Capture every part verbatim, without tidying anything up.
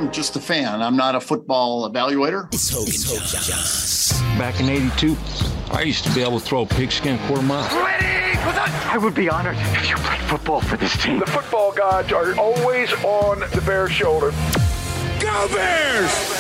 I'm just a fan. I'm not a football evaluator. It's Hogan, it's Hogan Johns. Back in eighty-two, I used to be able to throw a pigskin quarter mile. Ready! I would be honored if you played football for this team. The football gods are always on the Bears' shoulder. Go Bears!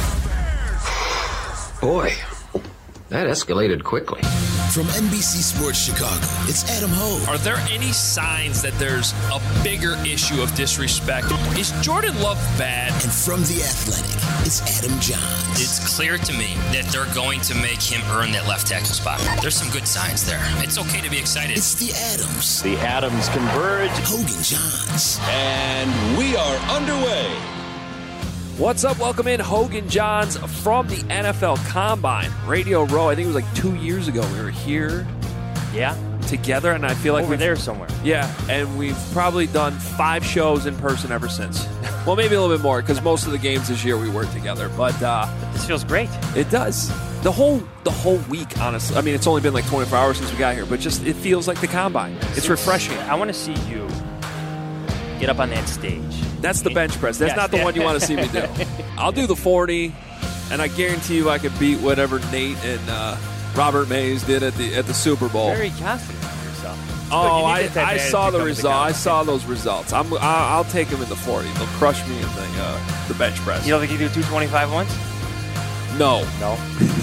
Boy, that escalated quickly. From N B C Sports Chicago, it's Adam Hogue. Are there any signs that there's a bigger issue of disrespect? Is Jordan Love bad? And from The Athletic, it's Adam Johns. It's clear to me that they're going to make him earn that left tackle spot. There's some good signs there. It's okay to be excited. It's the Adams. The Adams converge. Hogan Johns. And we are underway. What's up? Welcome in, Hogan Johns from the N F L Combine. Radio Row, I think it was like two years ago. We were here yeah, together, and I feel like we're we're there somewhere. Yeah, and we've probably done five shows in person ever since. Well, maybe a little bit more, because most of the games this year we worked together. But uh, this feels great. It does. The whole the whole week, honestly. I mean, it's only been like twenty-four hours since we got here, but just it feels like the Combine. It's refreshing. I want to see you get up on that stage. That's the bench press. That's yes. not the one you want to see me do. I'll do the forty, and I guarantee you I could beat whatever Nate and uh, Robert Mays did at the at the Super Bowl. Very confident in yourself. Oh, I, I saw the result. I saw those results. I'm I'll take them in the forty. They'll crush me in the uh, the bench press. You don't think you do two twenty-five once? No, no.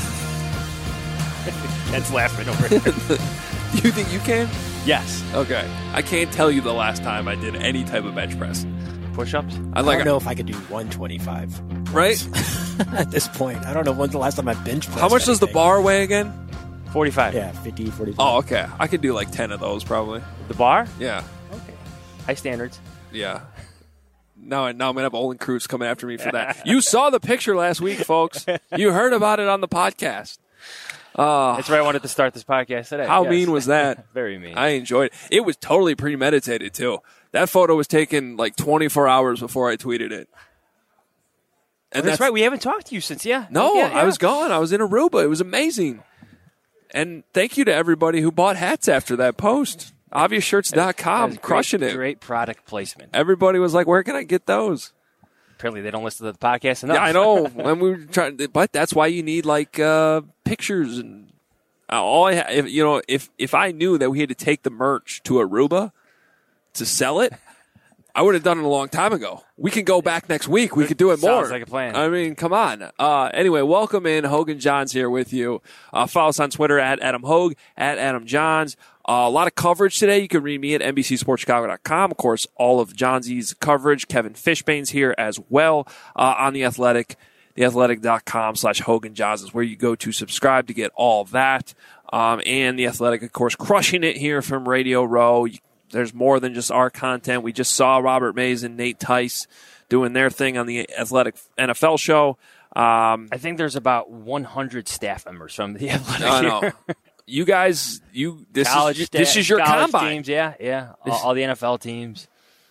That's laughing over here. You think you can? Yes. Okay. I can't tell you the last time I did any type of bench press. Push-ups? I, like I don't know if I could do one twenty-five. Right? At this point. I don't know when's the last time I bench pressed. How much does the bar weigh again? forty-five. Yeah, fifty, forty-five. Oh, okay. I could do like ten of those probably. The bar? Yeah. Okay. High standards. Yeah. Now, now I'm going to have Olin Cruz coming after me for that. You saw the picture last week, folks. You heard about it on the podcast. Uh, That's where I wanted to start this podcast today. How yes. mean was that? Very mean. I enjoyed it. It was totally premeditated, too. That photo was taken like twenty-four hours before I tweeted it. And oh, that's, that's right. We haven't talked to you since, yeah. No, yeah, yeah. I was gone. I was in Aruba. It was amazing. And thank you to everybody who bought hats after that post. obvious shirts dot com, crushing great, it. Great product placement. Everybody was like, where can I get those? Apparently they don't listen to the podcast enough. Yeah, I know. When we were trying, but that's why you need like uh, pictures and uh, all. I ha- if, you know, if if I knew that we had to take the merch to Aruba to sell it, I would have done it a long time ago. We can go back next week. We could do it more. Sounds like a plan. I mean, come on. Uh, anyway, welcome in. Hogan Johns here with you. Uh, follow us on Twitter at Adam Hogue, at Adam Johns. Uh, a lot of coverage today. You can read me at N B C Sports Chicago dot com. Of course, all of Johnsy's coverage. Kevin Fishbane's here as well uh, on The Athletic. The Athletic dot com slash Hogan Johns is where you go to subscribe to get all that. Um, and The Athletic, of course, crushing it here from Radio Row. You, there's more than just our content. We just saw Robert Mays and Nate Tice doing their thing on the Athletic N F L show. Um, I think there's about one hundred staff members from The Athletic. I know. You guys, you this college is this is your combine. Teams, yeah, yeah. All, all the N F L teams.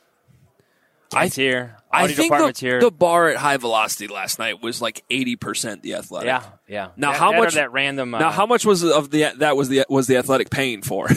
I here. I think the, here. the bar at High Velocity last night was like eighty percent The Athletic. Yeah, yeah. Now that, how that much that random? Uh, now how much was of the that was the was the Athletic paying for?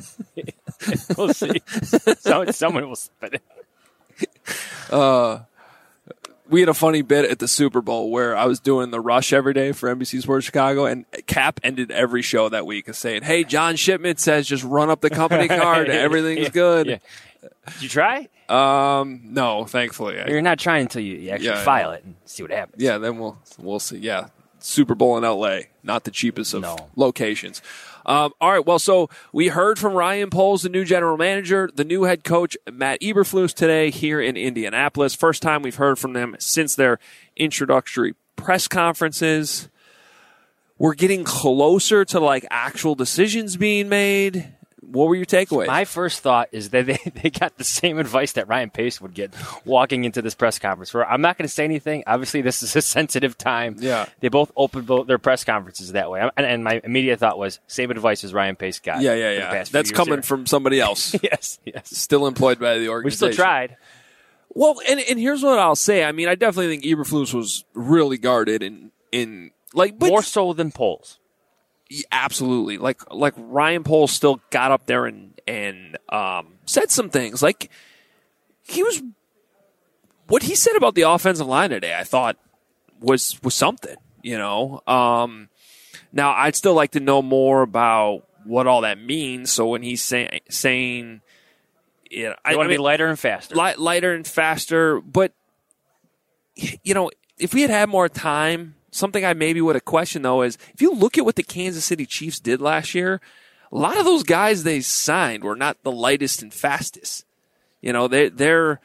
We'll see. so, someone will spend it. Uh. We had a funny bit at the Super Bowl where I was doing the rush every day for N B C Sports Chicago, and Cap ended every show that week saying, "Hey, John Shipman says just run up the company card, everything's yeah, good." Yeah. Did you try? Um, no, thankfully. You're not trying until you, you actually yeah, file it and see what happens. Yeah, then we'll we'll see. Yeah, Super Bowl in L A, not the cheapest of no. locations. Um, all right, well, so we heard from Ryan Poles, the new general manager, the new head coach, Matt Eberflus, today here in Indianapolis. First time we've heard from them since their introductory press conferences. We're getting closer to, like, actual decisions being made. What were your takeaways? My first thought is that they, they got the same advice that Ryan Pace would get walking into this press conference. Where I'm not going to say anything. Obviously, this is a sensitive time. Yeah. They both opened both their press conferences that way. And, and my immediate thought was, same advice as Ryan Pace got. Yeah, yeah, yeah. That's coming here. from somebody else. yes, yes. Still employed by the organization. We still tried. Well, and, and here's what I'll say. I mean, I definitely think Eberflus was really guarded in, in like, but more so than Poles. Absolutely. Like like Ryan Poles still got up there and, and um, said some things. Like he was what he said about the offensive line today, I thought was was something. You know, um, now I'd still like to know more about what all that means. So when he's say, saying, you know, I want to be lighter and faster, light, lighter and faster, but you know, if we had had more time, something I maybe would have questioned though is if you look at what the Kansas City Chiefs did last year, a lot of those guys they signed were not the lightest and fastest. You know, they they're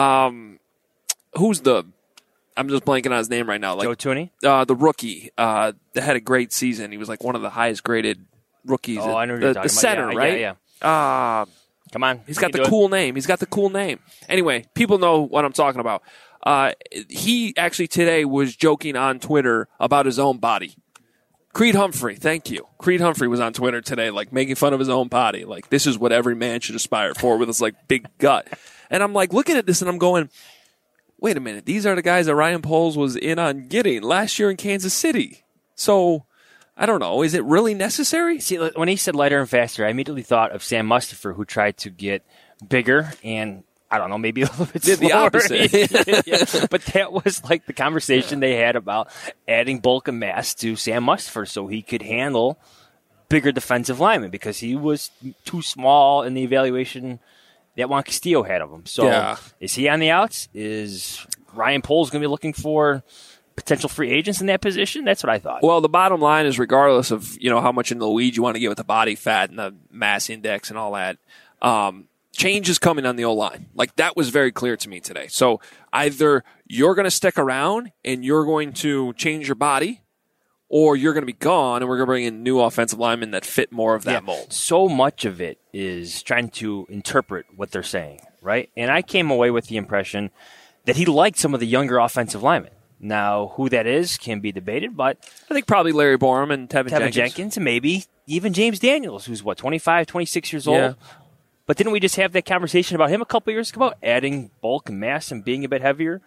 um, who's the I'm just blanking on his name right now. Like Joe Tooney? Uh, the rookie uh, that had a great season. He was like one of the highest graded rookies. Oh, at, I know what the, you're talking the about. center, yeah, right? Yeah, yeah. Uh, Come on. He's got the cool name. He's got the cool name. Anyway, people know what I'm talking about. Uh, he actually today was joking on Twitter about his own body. Creed Humphrey, thank you. Creed Humphrey was on Twitter today, like making fun of his own body. Like, this is what every man should aspire for with his like big gut. And I'm like looking at this and I'm going, wait a minute. These are the guys that Ryan Poles was in on getting last year in Kansas City. So I don't know. Is it really necessary? See, when he said lighter and faster, I immediately thought of Sam Mustipher, who tried to get bigger and, I don't know, maybe a little bit Did slower. the opposite. yeah. But that was like the conversation they had about adding bulk and mass to Sam Mustipher so he could handle bigger defensive linemen because he was too small in the evaluation that Juan Castillo had of him. So yeah. Is he on the outs? Is Ryan Poles going to be looking for potential free agents in that position? That's what I thought. Well, the bottom line is regardless of, you know, how much in the weeds you want to get with the body fat and the mass index and all that, um, change is coming on the O-line. Like, that was very clear to me today. So either you're going to stick around and you're going to change your body, or you're going to be gone and we're going to bring in new offensive linemen that fit more of that yeah. mold. So much of it is trying to interpret what they're saying, right? And I came away with the impression that he liked some of the younger offensive linemen. Now, who that is can be debated, but I think probably Larry Borum and Tevin, Tevin Jenkins. Jenkins, and maybe even James Daniels, who's what, twenty-five, twenty-six years old. Yeah. But didn't we just have that conversation about him a couple years ago, about adding bulk and mass and being a bit heavier?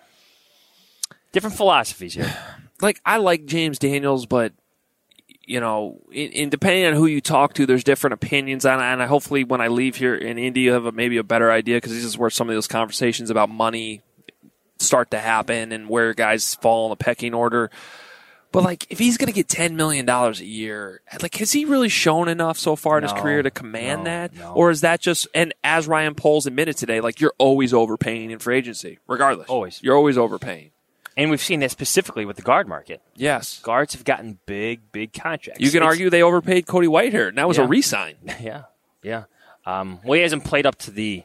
Different philosophies here. Like, I like James Daniels, but, you know, in, in depending on who you talk to, there's different opinions on it. And I, hopefully when I leave here in Indy, you have a, maybe a better idea, because this is where some of those conversations about money start to happen and where guys fall in the pecking order. But, like, if he's going to get ten million dollars a year, like, has he really shown enough so far in no, his career to command no, that? No. Or is that just, and as Ryan Poles admitted today, like, you're always overpaying in free agency, regardless. Always. You're always overpaying. And we've seen that specifically with the guard market. Yes. Guards have gotten big, big contracts. You can it's, argue they overpaid Cody Whitehair, and that was yeah. a re-sign. Yeah, yeah. Um, well, he hasn't played up to the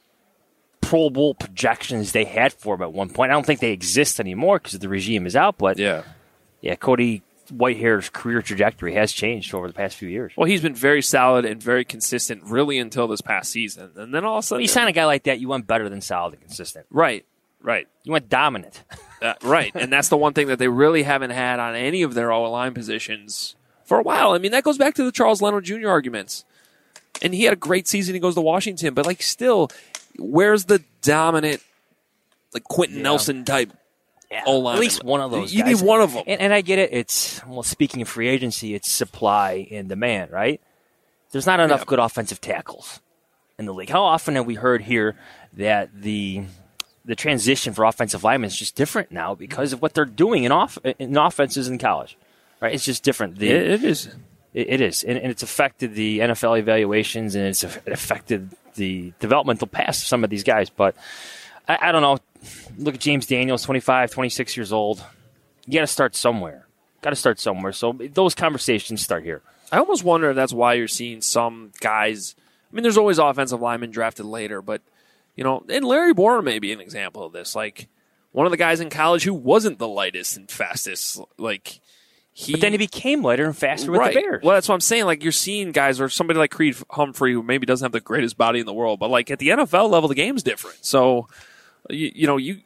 Pro Bowl projections they had for him at one point. I don't think they exist anymore because the regime is out, but yeah, yeah, Cody Whitehair's career trajectory has changed over the past few years. Well, he's been very solid and very consistent really until this past season. And then all of a sudden... When you sign a guy like that, you want better than solid and consistent. Right, right. You want dominant. Uh, right, and that's the one thing that they really haven't had on any of their O-line positions for a while. I mean, that goes back to the Charles Leno Junior arguments. And he had a great season. He goes to Washington. But, like, still, where's the dominant, like, Quentin yeah. Nelson type yeah. O-line? At least one of those You guys. need one of them. And, and I get it. It's, well, speaking of free agency, it's supply and demand, right? There's not enough yeah. good offensive tackles in the league. How often have we heard here that the the transition for offensive linemen is just different now because of what they're doing in off in offenses in college, right? It's just different. The, it, it is. It, it is, and, and it's affected the N F L evaluations, and it's affected the developmental path of some of these guys. But I, I don't know. Look at James Daniels, twenty-five, twenty-six years old. You got to start somewhere. Got to start somewhere. So those conversations start here. I almost wonder if that's why you're seeing some guys. I mean, there's always offensive linemen drafted later, but, you know, and Larry Borum may be an example of this. Like, one of the guys in college who wasn't the lightest and fastest. Like, he. But then he became lighter and faster with right. the Bears. Well, that's what I'm saying. Like, you're seeing guys, or somebody like Creed Humphrey, who maybe doesn't have the greatest body in the world, but, like, at the N F L level, the game's different. So, you, you know, you,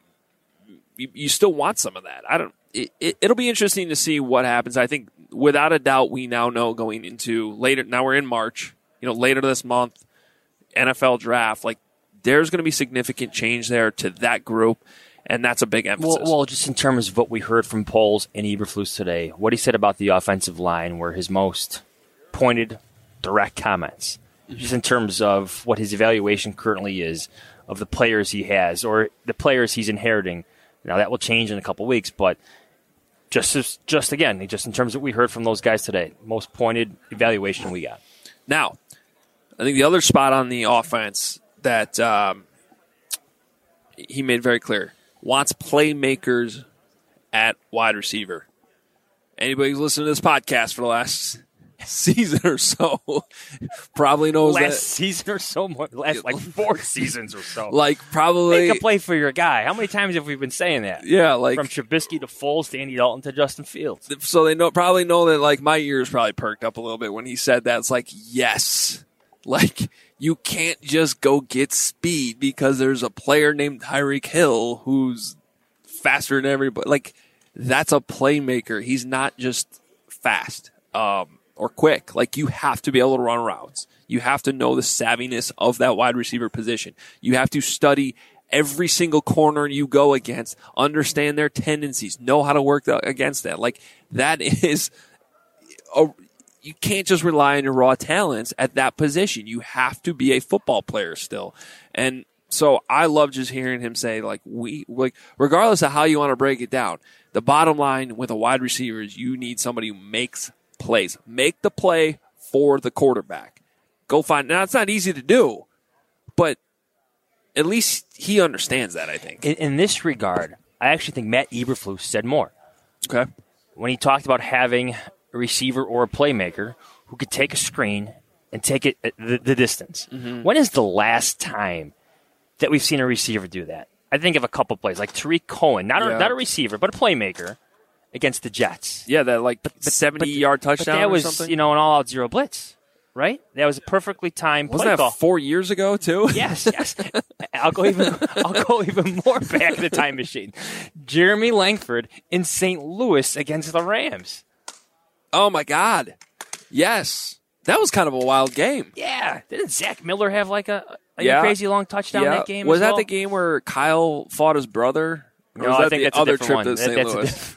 you you still want some of that. I don't. It, it, it'll be interesting to see what happens. I think, without a doubt, we now know going into later. Now we're in March. You know, later this month, N F L draft. Like, there's going to be significant change there to that group, and that's a big emphasis. Well, well, just in terms of what we heard from Poles and Eberflus today, what he said about the offensive line were his most pointed, direct comments. Just in terms of what his evaluation currently is of the players he has or the players he's inheriting. Now, that will change in a couple weeks, but just as, just again, just in terms of what we heard from those guys today, most pointed evaluation we got. Now, I think the other spot on the offense that um, he made very clear, wants playmakers at wide receiver. Anybody who's listened to this podcast for the last season or so probably knows last that. season or so, more, last like four seasons or so. Like probably make a play for your guy. How many times have we been saying that? Yeah, like from Trubisky to Foles to Andy Dalton to Justin Fields. So they know probably know that like my ears probably perked up a little bit when he said that. It's like, yes, like you can't just go get speed because there's a player named Tyreek Hill who's faster than everybody. Like that's a playmaker. He's not just fast. Um, or quick. Like, you have to be able to run routes. You have to know the savviness of that wide receiver position. You have to study every single corner you go against, understand their tendencies, know how to work the, against that. Like, that is, a, you can't just rely on your raw talents at that position. You have to be a football player still. And so I love just hearing him say, like, we, like, regardless of how you want to break it down, the bottom line with a wide receiver is you need somebody who makes plays. Make the play for the quarterback. Go find. Now, it's not easy to do, but at least he understands that, I think. In, in this regard, I actually think Matt Eberflus said more. Okay. When he talked about having a receiver or a playmaker who could take a screen and take it the, the distance. Mm-hmm. When is the last time that we've seen a receiver do that? I think of a couple plays, like Tariq Cohen, not, yeah. a, not a receiver, but a playmaker against the Jets. Yeah, that like seventy-yard touchdown but that or was, something? You know, an all-out zero blitz, right? That was a perfectly timed play Wasn't that call. four years ago, too? Yes, yes. I'll go even I'll go even more back in the time machine. Jeremy Langford in Saint Louis against the Rams. Oh, my God. Yes. That was kind of a wild game. Yeah. Didn't Zach Miller have like a, like yeah. a crazy long touchdown yeah. that game Was as that well? the game where Kyle fought his brother? Or No, was I that think the that's other a different trip one. to Saint That,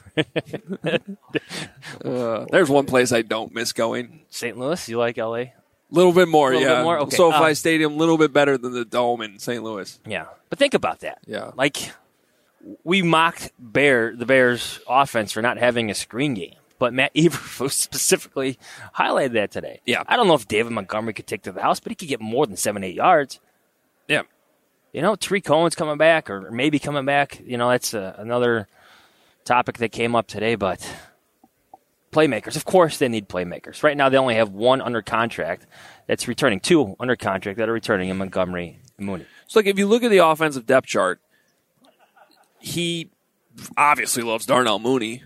Louis? uh, there's one place I don't miss going. Saint Louis? You like L A? A little bit more, little yeah. Bit more? Okay. SoFi uh, Stadium, a little bit better than the Dome in Saint Louis. Yeah. But think about that. Yeah. Like, we mocked Bear the Bears' offense for not having a screen game. But Matt Eberflus specifically highlighted that today. Yeah. I don't know if David Montgomery could take to the house, but he could get more than seven, eight yards. Yeah. You know, Tariq Cohen's coming back or maybe coming back. You know, that's uh, another topic that came up today. But playmakers, of course they need playmakers. Right now they only have one under contract that's returning, two under contract that are returning in Montgomery and Mooney. So, like, if you look at the offensive depth chart, he obviously loves Darnell Mooney.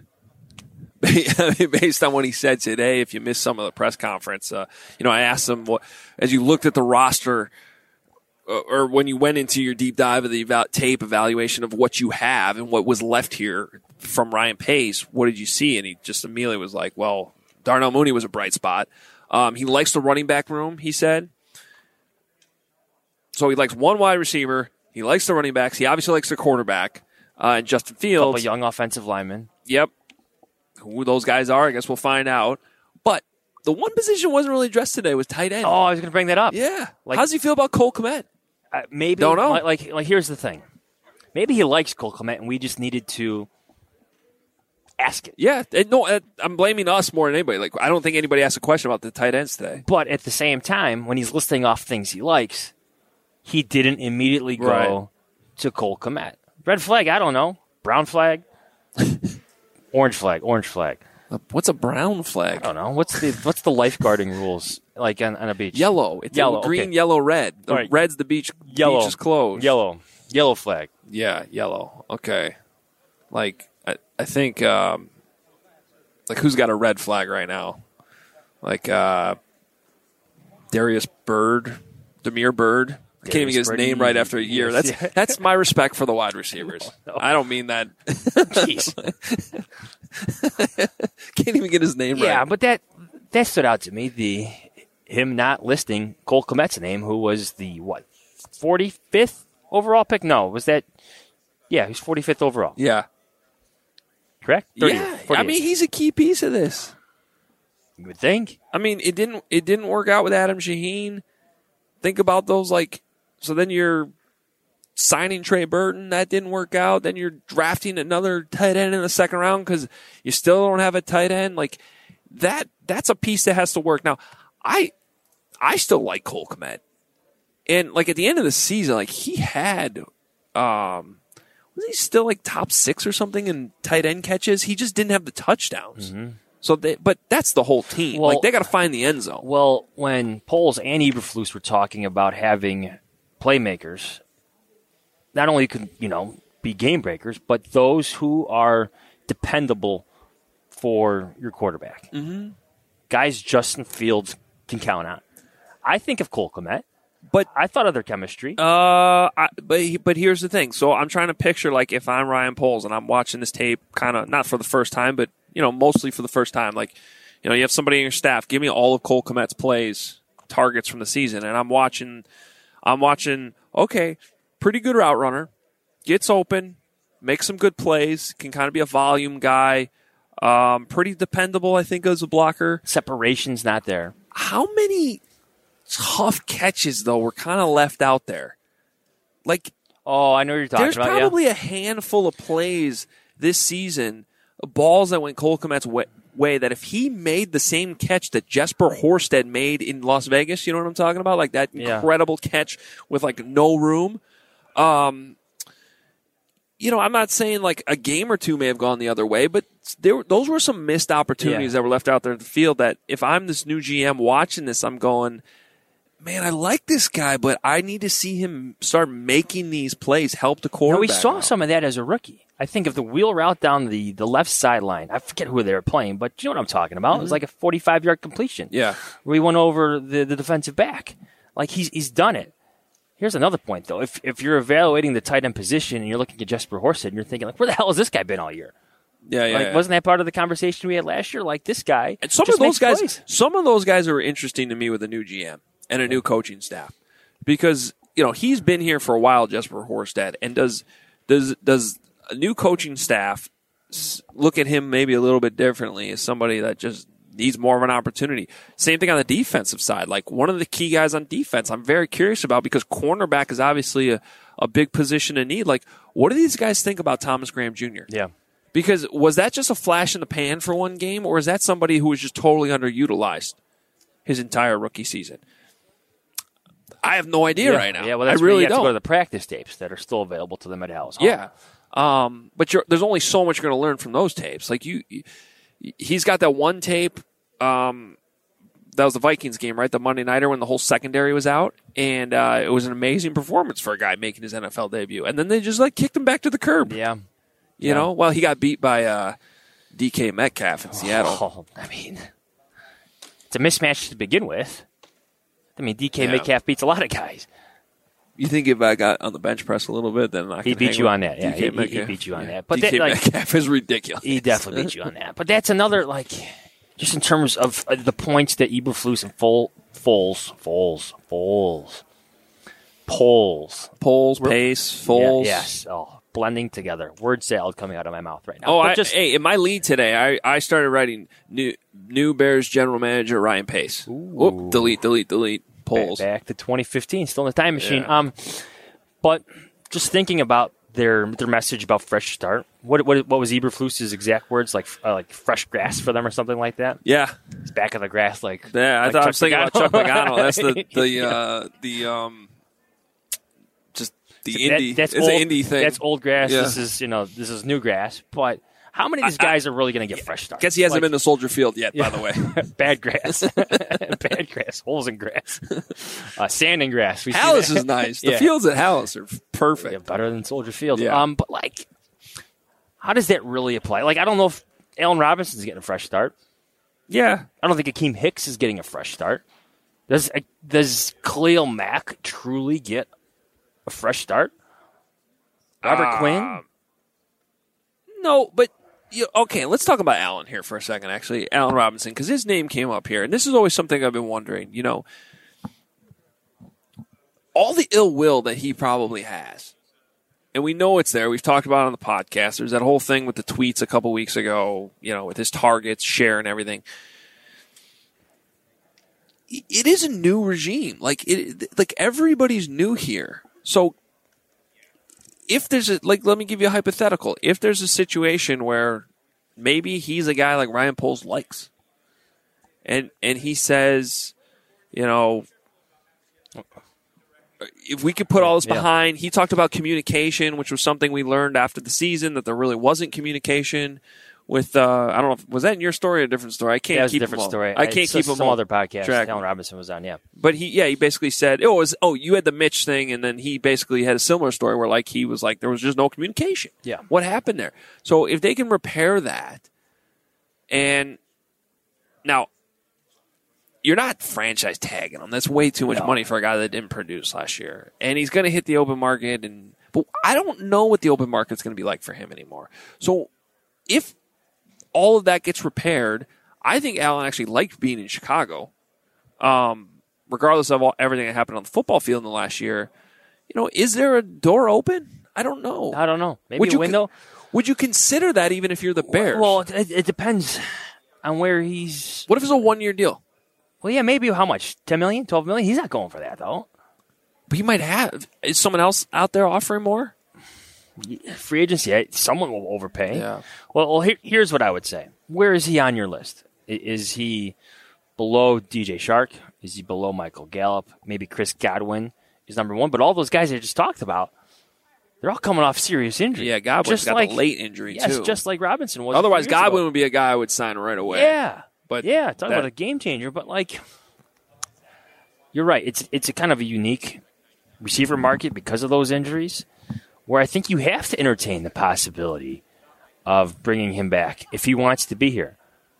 Based on what he said today, if you missed some of the press conference, uh, you know, I asked him, what, as you looked at the roster, uh, or when you went into your deep dive of the eval- tape evaluation of what you have and what was left here from Ryan Pace, what did you see? And he just immediately was like, well, Darnell Mooney was a bright spot. Um, he likes the running back room, he said. So he likes one wide receiver. He likes the running backs. He obviously likes the quarterback. Uh, and Justin Fields. A couple young offensive linemen. Yep. Who those guys are, I guess we'll find out. But the one position wasn't really addressed today was tight end. Oh, I was going to bring that up. Yeah. Like, how does he feel about Cole Kmet? Uh, maybe. Don't know. Like, like, like, here's the thing. Maybe he likes Cole Kmet, and we just needed to ask it. Yeah. And no, uh, I'm blaming us more than anybody. Like, I don't think anybody asked a question about the tight ends today. But at the same time, when he's listing off things he likes, he didn't immediately go right. to Cole Kmet. Red flag, I don't know. Brown flag? Orange flag, orange flag. What's a brown flag? I don't know. What's the what's the lifeguarding rules like on, on a beach? Yellow. It's yellow. Green, okay. yellow, red. The right. red's the beach. Yellow. Beach is closed. Yellow. Yellow flag. Yeah, yellow. Okay. Like, I, I think, um, like, who's got a red flag right now? Like, uh, Darius Bird, Demir Bird. I can't even get his Birdie. name right after a year. That's that's my respect for the wide receivers. No. I don't mean that. Jeez. Can't even get his name yeah, right. Yeah, but that that stood out to me. The him not listing Cole Kmet's name, who was the what forty-fifth overall pick? No, was that? Yeah, he's forty-fifth overall. Yeah, correct. Yeah, I mean he's a key piece of this. You would think. I mean it didn't it didn't work out with Adam Shaheen. Think about those like. So then you're signing Trey Burton, that didn't work out. Then you're drafting another tight end in the second round because you still don't have a tight end. Like that, that's a piece that has to work. Now, I, I still like Cole Kmet. And like at the end of the season, like he had, um, was he still like top six or something in tight end catches? He just didn't have the touchdowns. Mm-hmm. So, they, but that's the whole team. Well, like they got to find the end zone. Well, when Poles and Eberflus were talking about having playmakers, not only could you know be game breakers, but those who are dependable for your quarterback, mm-hmm. guys Justin Fields can count on. I think of Cole Kmet. But I thought of their chemistry. Uh, I, but but here's the thing. So I'm trying to picture like if I'm Ryan Poles and I'm watching this tape, kind of not for the first time, but you know mostly for the first time. Like, you know, you have somebody in your staff. Give me all of Cole Kmet's plays, targets from the season, and I'm watching. I'm watching. Okay, pretty good route runner, gets open, makes some good plays, can kind of be a volume guy. Um, pretty dependable, I think, as a blocker. Separation's not there. How many tough catches, though, were kind of left out there? Like, oh, I know what you're talking there's about. There's probably yeah. a handful of plays this season, balls that went Cole Kmet's way, way, that if he made the same catch that Jesper Horsted made in Las Vegas, you know what I'm talking about? Like that yeah. incredible catch with like no room. Um, you know, I'm not saying like a game or two may have gone the other way, but there, those were some missed opportunities yeah. that were left out there in the field that if I'm this new G M watching this, I'm going, man, I like this guy, but I need to see him start making these plays, help the quarterback. Now, we saw out. some of that as a rookie. I think of the wheel route down the, the left sideline. I forget who they were playing, but you know what I'm talking about. Mm-hmm. It was like a forty-five-yard completion. Yeah. Where he went over the, the defensive back. Like, he's he's done it. Here's another point, though. If if you're evaluating the tight end position and you're looking at Jesper Horsted and you're thinking, like, where the hell has this guy been all year? Yeah, yeah, like, yeah. Wasn't that part of the conversation we had last year? Like, this guy and some just of those guys, plays. some of those guys are interesting to me with a new G M and a new coaching staff because you know he's been here for a while, Jesper Horsted, and does does does a new coaching staff look at him maybe a little bit differently as somebody that just needs more of an opportunity? Same thing on the defensive side. Like one of the key guys on defense, I'm very curious about because cornerback is obviously a, a big position in need. Like, what do these guys think about Thomas Graham Junior? Yeah. Because was that just a flash in the pan for one game, or is that somebody who was just totally underutilized his entire rookie season? I have no idea yeah. right now. Yeah, well, that's I really where you have don't. to go to the practice tapes that are still available to them at Hal's Hall. Yeah, um, but you're, there's only so much you're going to learn from those tapes. Like you, you, he's got that one tape. Um, that was the Vikings game, right? The Monday Nighter when the whole secondary was out, and uh, it was an amazing performance for a guy making his N F L debut. And then they just like kicked him back to the curb. Yeah, you yeah. know. Well, he got beat by uh, D K Metcalf in Seattle. Oh, I mean, it's a mismatch to begin with. I mean, D K Yeah. Metcalf beats a lot of guys. You think if I got on the bench press a little bit, then I he could beat hang you with on that. Yeah, D K he, he Metcalf. beat you on Yeah. that. But D K that, like, Metcalf is ridiculous. He definitely beat you on that. But that's another like, just in terms of uh, the points that Eberflus and Foles, Foles, Foles, Foles, Poles, Poles, Pace, Foles. Yeah, yes, oh, blending together. Word salad coming out of my mouth right now. Oh, But I, just, hey, in my lead today, I, I started writing new new Bears general manager Ryan Pace. Whoop, delete, delete, delete. Polls. Back, back to twenty fifteen, still in the time machine. Yeah. Um, but just thinking about their their message about fresh start. What what what was Eberflus's exact words? Like uh, like fresh grass for them or something like that. Yeah, it's back of the grass. Like yeah, I like thought Chuck I was thinking Pagano. about Chuck Pagano. That's the the Yeah. uh, the um, just the That- indie. that's it's old, an indie thing. That's old grass. Yeah. This is you know this is new grass. But how many of these I- guys are really going to get fresh starts? Guess he hasn't Like, been to Soldier Field yet. yeah. By the way, bad grass, bad grass, holes in grass, uh, sand in grass. We see Hallis that. is nice. The Yeah. fields at Hallis are perfect. Yeah, better than Soldier Field. Yeah. Um, but like, how does that really apply? Like, I don't know if Allen Robinson's getting a fresh start. Yeah, I don't think Akeem Hicks is getting a fresh start. Does does Khalil Mack truly get a fresh start? Robert Uh, Quinn? No, but you, okay. Let's talk about Allen here for a second. Actually, Allen Robinson, because his name came up here, and this is always something I've been wondering. You know, all the ill will that he probably has, and we know it's there. We've talked about it on the podcast. There's that whole thing with the tweets a couple weeks ago. You know, with his targets, share, and everything. It is a new regime. Like it, like everybody's new here. So if there's a, like, let me give you a hypothetical. If there's a situation where maybe he's a guy like Ryan Poles likes, and and he says, you know, if we could put all this Yeah. behind, he talked about communication, which was something we learned after the season, that there really wasn't communication with, uh, I don't know, if, was that in your story or a different story? I can't That was a keep different them all. story. I can't It's keep some them all other podcast. track. Allen Robinson was on, yeah. But he, yeah, he basically said, oh, it was, oh, you had the Mitch thing, and then he basically had a similar story where, like, he was like, there was just no communication. Yeah. What happened there? So if they can repair that, and now, you're not franchise tagging him. That's way too much No. money for a guy that didn't produce last year. And he's going to hit the open market. And but I don't know what the open market's going to be like for him anymore. So if all of that gets repaired, I think Allen actually liked being in Chicago. Um, regardless of all, everything that happened on the football field in the last year, you know, is there a door open? I don't know. I don't know. Maybe would a you window? Con- would you consider that even if you're the Bears? Well, it, it depends on where he's. What if it's a one-year deal? Well, yeah, maybe how much? ten million dollars, twelve million dollars? He's not going for that, though. But he might have. Is someone else out there offering more? Free agency, someone will overpay. Yeah. Well, well here, here's what I would say. Where is he on your list? I- Is he below D J Shark? Is he below Michael Gallup? Maybe Chris Godwin is number one. But all those guys I just talked about, they're all coming off serious injury. Yeah, Godwin's just got like, the late injury, yes, too. just like Robinson was. Otherwise, a few years Godwin ago. would be a guy I would sign right away. Yeah. But yeah, talk that- about a game changer. But, like, you're right. It's it's a kind of a unique receiver market because of those injuries where I think you have to entertain the possibility of bringing him back if he wants to be here.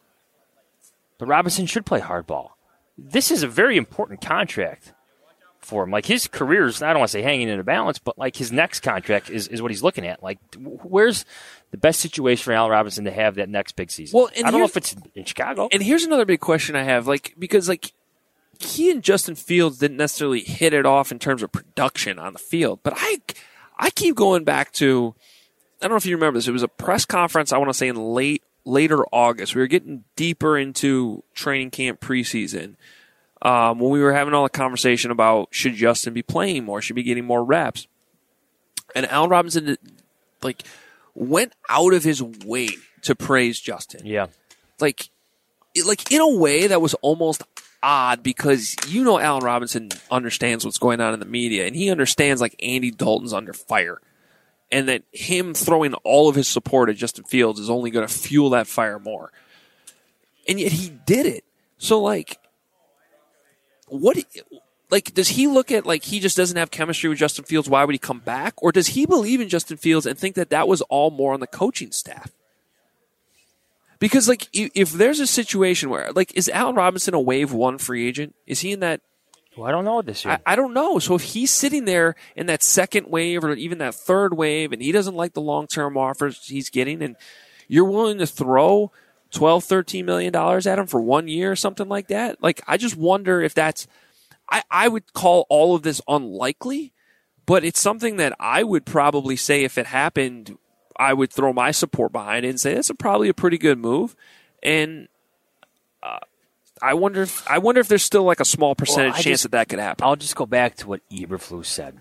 But Robinson should play hardball. This is a very important contract for him. Like, his career's, I don't want to say hanging in a balance, but, like, his next contract is, is what he's looking at. Like, where's the best situation for Allen Robinson to have that next big season? Well, and I don't know here's- if it's in Chicago. And here's another big question I have, like, because, like, he and Justin Fields didn't necessarily hit it off in terms of production on the field, but I, I keep going back to, I don't know if you remember this, it was a press conference, I want to say in late, later August. We were getting deeper into training camp preseason. Um, when we were having all the conversation about should Justin be playing more, should be getting more reps. And Allen Robinson, like, went out of his way to praise Justin. Yeah. Like, it- like in a way that was almost odd because, you know, Allen Robinson understands what's going on in the media, and he understands, like, Andy Dalton's under fire. And that him throwing all of his support at Justin Fields is only going to fuel that fire more. And yet he did it. So, like, what, like, does he look at, like, he just doesn't have chemistry with Justin Fields, why would he come back? Or does he believe in Justin Fields and think that that was all more on the coaching staff? Because, like, i- if there's a situation where, like, is Allen Robinson a wave one free agent? Is he in that? Well, I don't know this year. I, I don't know. So if he's sitting there in that second wave or even that third wave and he doesn't like the long-term offers he's getting and you're willing to throw twelve, thirteen million dollars at him for one year or something like that, like, I just wonder if that's, I, I would call all of this unlikely, but it's something that I would probably say if it happened, I would throw my support behind it and say that's a, probably a pretty good move. And uh, I wonder if I wonder if there's still like a small percentage Well, I chance just- that that could happen. I'll just go back to what Eberflus said.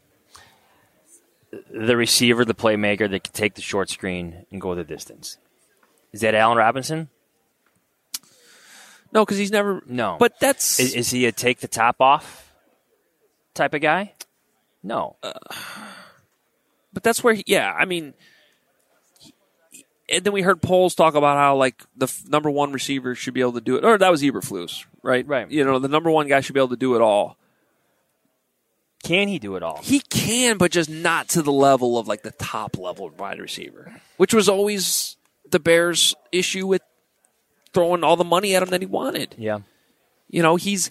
The receiver, the playmaker that can take the short screen and go the distance. Is that Allen Robinson? No, because he's never. No. But that's. Is, is he a take the top off type of guy? No. Uh, but that's where, he, yeah, I mean. he- And then we heard Poles talk about how, like, the f- number one receiver should be able to do it. Or that was Eberflus, right? Right. You know, the number one guy should be able to do it all. Can he do it all? He can, but just not to the level of, like, the top level wide receiver, which was always the Bears' issue with throwing all the money at him that he wanted. Yeah. You know, he's.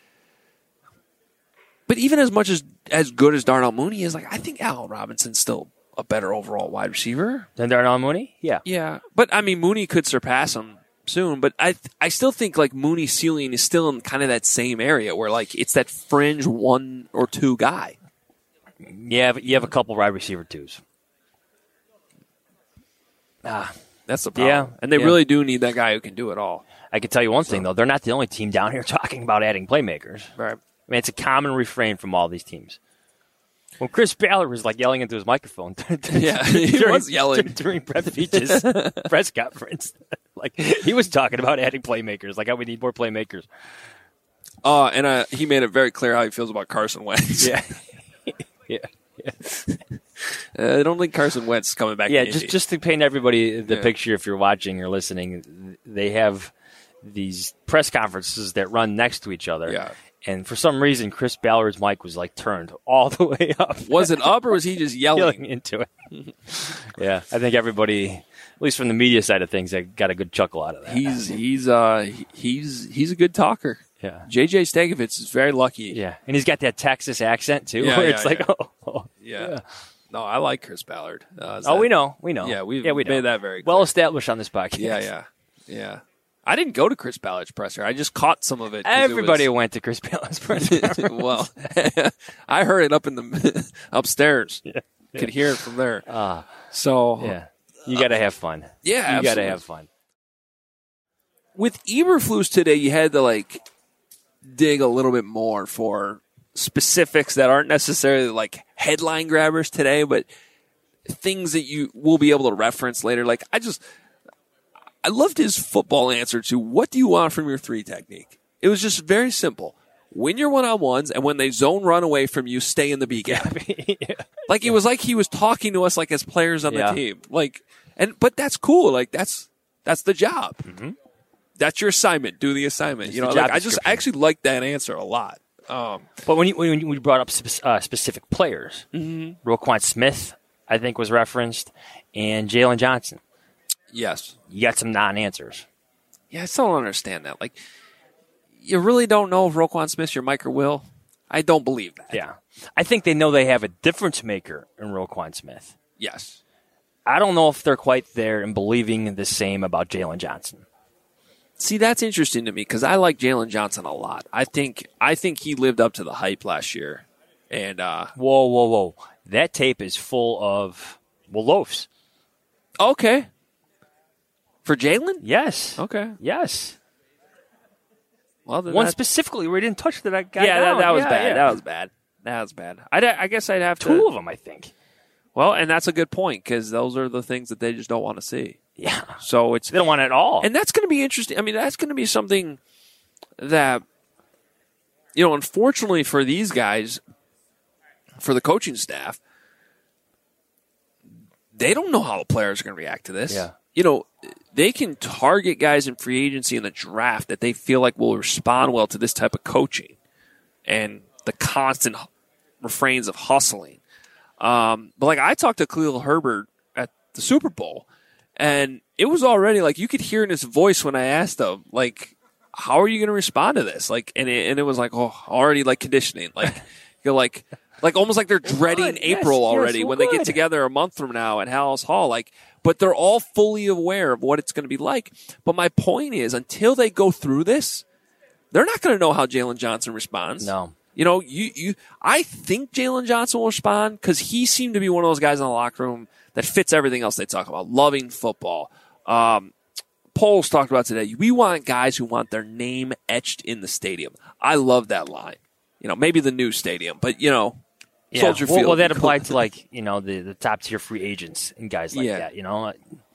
But even as much as as good as Darnell Mooney is, like, I think Allen Robinson's still a better overall wide receiver. Then Darnell Mooney? Yeah. Yeah. But, I mean, Mooney could surpass him soon, but I I still think, like, Mooney's ceiling is still in kind of that same area where, like, it's that fringe one or two guy. Yeah, but you have a couple wide receiver twos. Ah, That's the problem. Yeah, And they yeah. really do need that guy who can do it all. I can tell you one thing, though. They're not the only team down here talking about adding playmakers. Right. I mean, it's a common refrain from all these teams. Well, Chris Ballard was like yelling into his microphone. Yeah, he during, was yelling during Brett Veach's press conference. Like he was talking about adding playmakers, like how we need more playmakers. Uh, and uh, he made it very clear how he feels about Carson Wentz. Yeah, yeah, yeah. uh, I don't think Carson Wentz is coming back. Yeah, to just Indy. just to paint everybody the Yeah. picture, if you're watching or listening, they have these press conferences that run next to each other. Yeah. And for some reason, Chris Ballard's mic was like turned all the way up. Was it up or was he just yelling, yelling into it? Yeah, I think everybody, at least from the media side of things, got a good chuckle out of that. He's he's uh he's he's a good talker. Yeah. J J Stagovitz is very lucky. Yeah, and he's got that Texas accent too, Yeah, where yeah, it's like, yeah. oh, oh Yeah. yeah. No, I like Chris Ballard. Uh, is Oh, that- we know, we know. Yeah, we've yeah, we know. made that very clear. well established on this podcast. Yeah, yeah, yeah. I didn't go to Chris Ballard's presser. I just caught some of it. 'cause Everybody it was, went to Chris Ballard's press conference. well, I heard it up in the upstairs. Yeah. Could hear it from there. Ah, So yeah, you got to have fun. Yeah, you got to absolutely. have fun. With Eberflus today, you had to like dig a little bit more for specifics that aren't necessarily like headline grabbers today, but things that you will be able to reference later. Like I just, I loved his football answer to what do you want from your three technique? It was just very simple. Win your one-on-ones, and when they zone run away from you, stay in the B gap. yeah. Like it was like he was talking to us like as players on Yeah. the team. Like, and but that's cool. Like that's that's the job. Mm-hmm. That's your assignment. Do the assignment. It's you the know, job like, I just description. I actually like that answer a lot. Um, But when you when you brought up spe- uh, specific players, mm-hmm. Roquan Smith, I think, was referenced, and Jalen Johnson. yes. You got some non-answers. Yeah, I still don't understand that. Like, you really don't know if Roquan Smith's your Mike or Will. I don't believe that. Yeah, I think they know they have a difference maker in Roquan Smith. Yes. I don't know if they're quite there in believing the same about Jalen Johnson. See, that's interesting to me because I like Jalen Johnson a lot. I think I think he lived up to the hype last year. And uh, Whoa, whoa, whoa! That tape is full of well loafs. okay. For Jalen? Yes. Okay. Yes. Well, then One that- specifically where he didn't touch that guy. Yeah, that, down. that was Yeah, bad. yeah. That was bad. That was bad. I'd, I guess I'd have to. Two of them, I think. Well, and that's a good point because those are the things that they just don't want to see. Yeah. So it's They don't want it at all. and that's going to be interesting. I mean, that's going to be something that you know, unfortunately for these guys, for the coaching staff, they don't know how the players are going to react to this. Yeah. You know, they can target guys in free agency in the draft that they feel like will respond well to this type of coaching and the constant refrains of hustling. Um, but like I talked to Khalil Herbert at the Super Bowl, and it was already like you could hear in his voice when I asked him, like, how are you going to respond to this? Like, and it, and it was like, oh, already like conditioning, like you're like, like almost like they're dreading good. Yes, April yes, already well, when they get good. together a month from now at Hallis Hall. Like, but they're all fully aware of what it's going to be like. But my point is, until they go through this, they're not going to know how Jalen Johnson responds. No. You know, you, you, I think Jalen Johnson will respond because he seemed to be one of those guys in the locker room that fits everything else they talk about, loving football. Um, Poles talked about today. We want guys who want their name etched in the stadium. I love that line. You know, maybe the new stadium, but you know, Yeah. Soldier well, Field. well, that applied to like you know the, the top tier free agents and guys like Yeah. that. You know,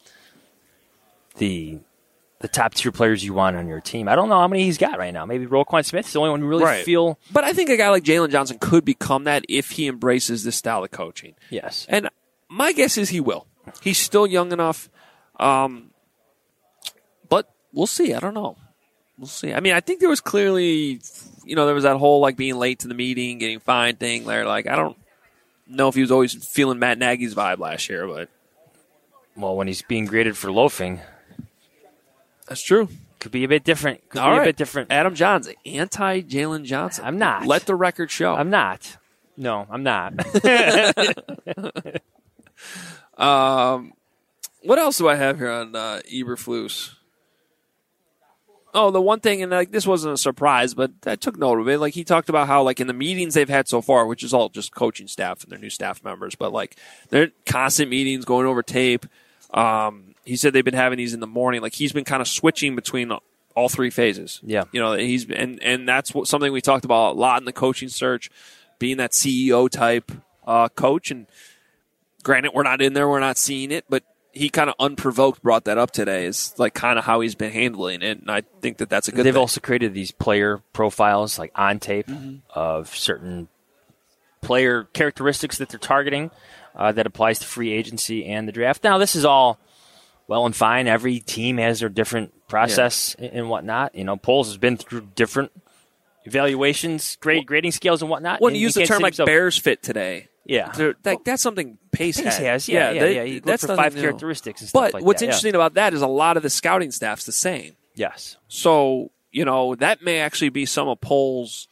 the the top tier players you want on your team. I don't know how many he's got right now. Maybe Roquan Smith's the only one who really Right. feel. But I think a guy like Jalen Johnson could become that if he embraces this style of coaching. Yes. And my guess is he will. He's still young enough. Um, but we'll see. I don't know. We'll see. I mean, I think there was clearly, you know, there was that whole like being late to the meeting, getting fined thing there. Like, I don't know if he was always feeling Matt Nagy's vibe last year, but Well, when he's being graded for loafing, that's true. could be a bit different. Could All be right. a bit different. Adam Johns, anti Jalen Johnson. I'm not. Let the record show. I'm not. No, I'm not. Um, what else do I have here on uh, Eberflus? Oh, the one thing, and like this wasn't a surprise, but I took note of it. Like he talked about how, like in the meetings they've had so far, which is all just coaching staff and their new staff members, but like they're constant meetings going over tape. Um, he said they've been having these in the morning. Like he's been kind of switching between all three phases. Yeah, you know he's and and that's what, something we talked about a lot in the coaching search, being that C E O type. uh, coach. And granted, we're not in there, we're not seeing it, but he kind of unprovoked brought that up today. Is like kind of how he's been handling it, and I think that that's a good. They've thing. also created these player profiles, like on tape, mm-hmm. of certain player characteristics that they're targeting. Uh, that applies to free agency and the draft. Now, this is all well and fine. Every team has their different process yeah. and whatnot. You know, Poles has been through different evaluations, grade, well, grading scales and whatnot. Well, you use the term like himself. Bears fit today. Yeah. Like, that's something Pace, Pace had. has. Yeah, yeah, they, yeah. He that's for five new. characteristics and stuff but like what's that. interesting yeah. about that is a lot of the scouting staff's the same. Yes. So, you know, that may actually be some of Poles'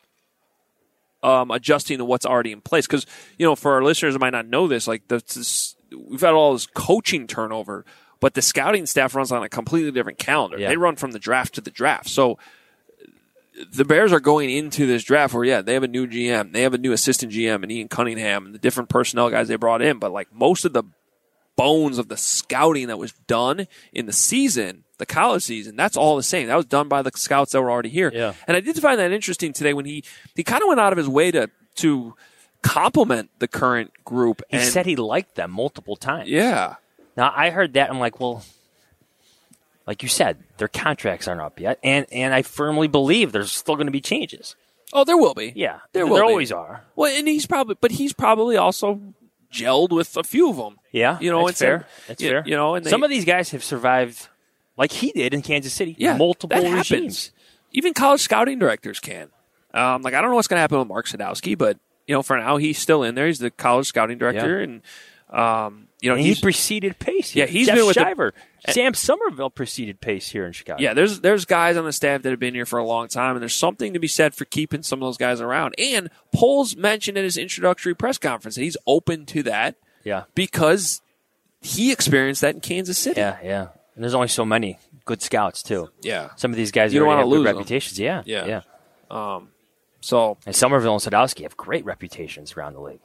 Um, adjusting to what's already in place. Because, you know, for our listeners who might not know this, like, the, this, we've had all this coaching turnover, but the scouting staff runs on a completely different calendar. Yeah. They run from the draft to the draft. So the Bears are going into this draft where, yeah, they have a new G M. They have a new assistant G M and Ian Cunningham and the different personnel guys they brought in. But, like, most of the bones of the scouting that was done in the season, the college season, that's all the same. That was done by the scouts that were already here. Yeah. And I did find that interesting today when he, he kind of went out of his way to to compliment the current group. He and, said he liked them multiple times. Yeah. Now, I heard that. I'm like, well, like you said, their contracts aren't up yet. And, and I firmly believe there's still going to be changes. Oh, there will be. Yeah. There, there will always be. are. Well, and he's probably, but he's probably also gelled with a few of them. Yeah. You know, that's fair. That's you, fair. You know, and they, some of these guys have survived like he did in Kansas City. Yeah, multiple that regimes. Happens. Even college scouting directors can. Um, like, I don't know what's going to happen with Mark Sadowski, but, you know, for now, he's still in there. He's the college scouting director. Yeah. And, um, you know, and he's, he preceded Pace here. Yeah, he's Jeff been with Shiver. The, Sam Somerville preceded Pace here in Chicago. Yeah, there's there's guys on the staff that have been here for a long time, and there's something to be said for keeping some of those guys around. And Poles mentioned in his introductory press conference that he's open to that. Yeah. Because he experienced that in Kansas City. Yeah, yeah. And there's only so many good scouts, too. Yeah. Some of these guys you don't already want have to lose good reputations. Yeah, yeah. Yeah. Um, so and Somerville and Sadowski have great reputations around the league.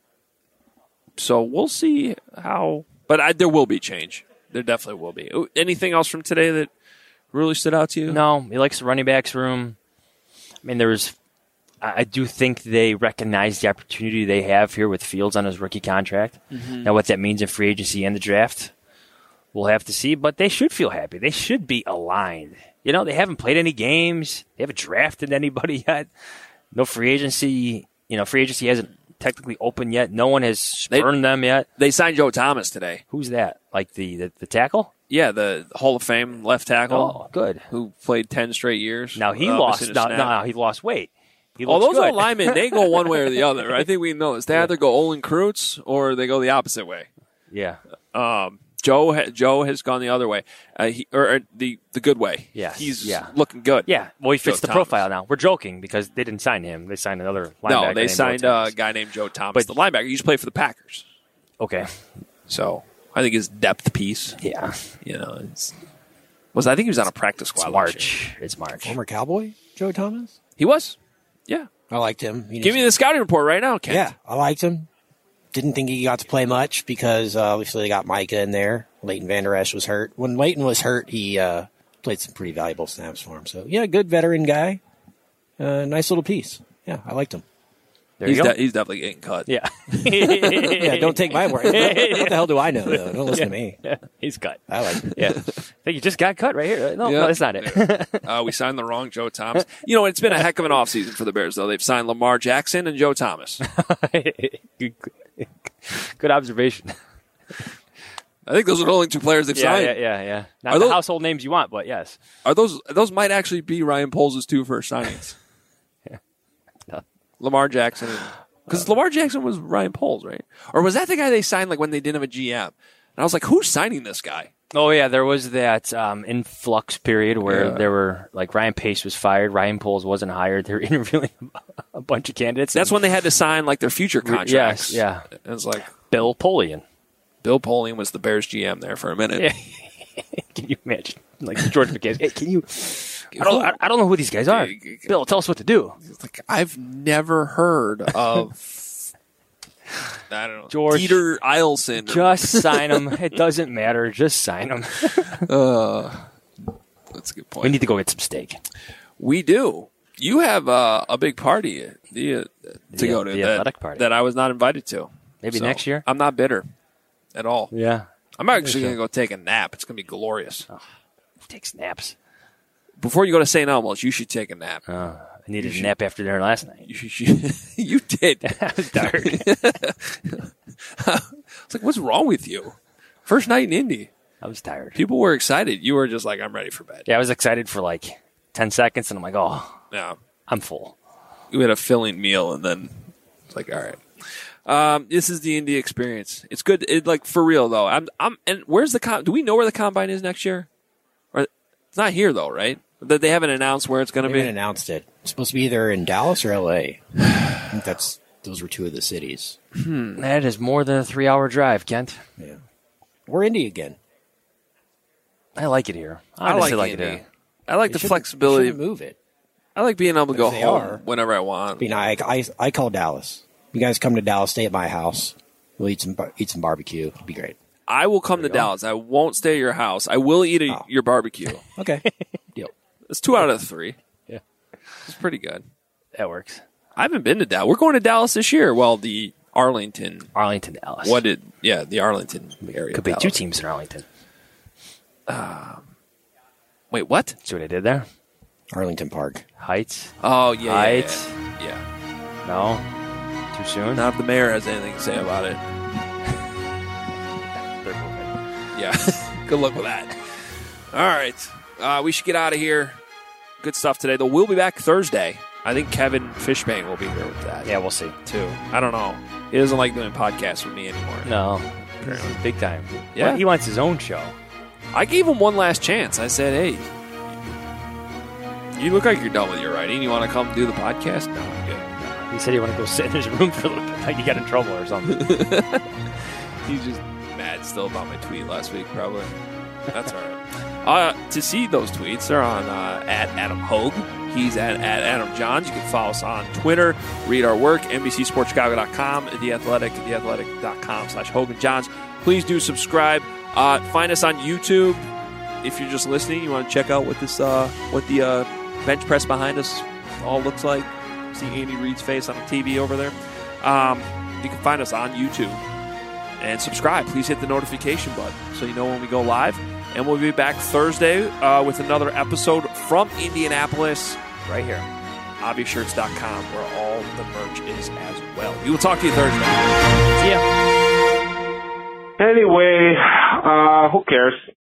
So we'll see how, but I, there will be change. There definitely will be. Anything else from today that really stood out to you? No, he likes the running backs room. I mean, there was, I do think they recognize the opportunity they have here with Fields on his rookie contract. Mm-hmm. Now, what that means in free agency and the draft, we'll have to see, but they should feel happy. They should be aligned. You know, they haven't played any games. They haven't drafted anybody yet. No free agency. You know, free agency hasn't technically open yet. No one has spurned they, them yet. They signed Joe Thomas today. Who's that? Like the, the, the tackle? Yeah, the Hall of Fame left tackle. Oh, good. Who played ten straight years. Now he uh, lost. No, no, no, he lost weight. He All those good. old linemen, they go one way or the other. I think we know this. They yeah. either go Olin Kreutz or they go the opposite way. Yeah. Um, Joe ha- Joe has gone the other way, uh, he, or, or the the good way. Yeah, he's yeah. looking good. Yeah, well, he fits Joe the Thomas. profile now. We're joking because they didn't sign him. They signed another linebacker. No, they named signed uh, a guy named Joe Thomas, but, the linebacker. He used to play for the Packers. Okay, so I think his depth piece. Yeah, you know, it's, was I think he was on a practice squad. It's March. It's March. Former Cowboy Joe Thomas. He was. Yeah, I liked him. He Give me the scouting report right now, Kent. Yeah, I liked him. Didn't think he got to play much because uh, obviously they got Micah in there. Leighton Vander Esch was hurt. When Leighton was hurt, he uh, played some pretty valuable snaps for him. So, yeah, good veteran guy. Uh, nice little piece. Yeah, I liked him. There he's, you go. De- he's definitely getting cut. Yeah. yeah, don't take my word. What the hell do I know, though? Don't listen yeah. to me. Yeah. He's cut. I like him. Yeah. I think you just got cut right here. No, yeah. no that's not it. uh, we signed the wrong Joe Thomas. You know, it's been a heck of an offseason for the Bears, though. They've signed Lamar Jackson and Joe Thomas. good, good observation. I think those are the only two players they've yeah, signed. Yeah, yeah, yeah. Not are the those, household names you want, but yes. Are those those might actually be Ryan Poles' two first signings? yeah. No. Lamar Jackson. Because uh, Lamar Jackson was Ryan Poles, right? Or was that the guy they signed like when they didn't have a G M? And I was like, who's signing this guy? Oh, yeah, there was that um, influx period where yeah. there were, like, Ryan Pace was fired, Ryan Poles wasn't hired. They were interviewing a bunch of candidates. That's when they had to sign, like, their future contracts. Yes, yeah. It was like Bill Polian. Bill Polian was the Bears G M there for a minute. Yeah. Can you imagine? Like, George McCabe. Hey, can you? I don't, I, I don't know who these guys are. Bill, tell us what to do. Like, I've never heard of... I don't know. George, Peter Eilson. Just sign him. It doesn't matter. Just sign him. uh, that's a good point. We need to go get some steak. We do. You have uh, a big party the, uh, to The- go to the that, athletic party. that I was not invited to. Maybe So, next year? I'm not bitter at all. Yeah. I'm actually going to go take a nap. It's going to be glorious. Oh, takes naps. Before you go to Saint Elmo's, you should take a nap. Uh, I needed You a should- nap after dinner last night. You, should, you did. I was tired. It's like, what's wrong with you? First night in Indy. I was tired. People were excited. You were just like, I'm ready for bed. Yeah, I was excited for like ten seconds, and I'm like, oh, Yeah. I'm full. We had a filling meal, and then it's like, all right. Um, this is the Indy experience. It's good. It, like for real though. I'm. I'm. And where's the com- do we know where the combine is next year? Or it's not here though, right? That they haven't announced where it's going to They be. haven't announced it. It's supposed to be either in Dallas or L A. I think that's those were two of the cities. Hmm. That is more than a three-hour drive, Kent. Yeah, we're Indy again. I like it here. I Honestly, like like Indy. it here. I like They the shouldn't- flexibility. they shouldn't move it. I like being able to But go if they home are- whenever I want. I mean, I, I I call Dallas. You guys come to Dallas, stay at my house. We'll eat some bar- eat some barbecue. It'll be great. I will come to Dallas. I won't stay at your house. I will eat a, Oh. your barbecue. Okay, deal. It's two out of three. Yeah. It's pretty good. That works. I haven't been to Dallas. We're going to Dallas this year. Well, the Arlington. Arlington, Dallas. What did? Yeah, the Arlington area. Could be Dallas. two teams in Arlington. Wait, what? See what I did there? Arlington Park. Heights. Oh yeah, yeah, Heights. yeah. yeah. No. Too soon. Not if the mayor has anything to say about it. They're moving. Yeah. Good luck with that. All right. Uh, we should get out of here. Good stuff today. Though we'll be back Thursday. I think Kevin Fishbane will be here with that. Yeah, we'll see. Too. I don't know. He doesn't like doing podcasts with me anymore. No. Big time. Yeah. Well, he wants his own show. I gave him one last chance. I said, hey, you look like you're done with your writing. You want to come do the podcast? No, I'm good. He said he wanted to go sit in his room for a little bit. Like he got in trouble or something. He's just mad still about my tweet last week, probably. That's all right. Uh, to see those tweets, they're on uh, at Adam Hogue. He's at, at Adam Johns. You can follow us on Twitter, read our work, N B C Sports Chicago dot com, The Athletic, the athletic dot com slash Hogan Johns. Please do subscribe. Uh, find us on YouTube. If you're just listening, you want to check out what this, uh, what the uh, bench press behind us all looks like. See Andy Reid's face on the T V over there. Um, you can find us on YouTube and subscribe. Please hit the notification button so you know when we go live. And we'll be back Thursday uh, with another episode from Indianapolis right here. obvious shirts dot com, where all the merch is as well. We will talk to you Thursday. See ya. Anyway, uh, who cares?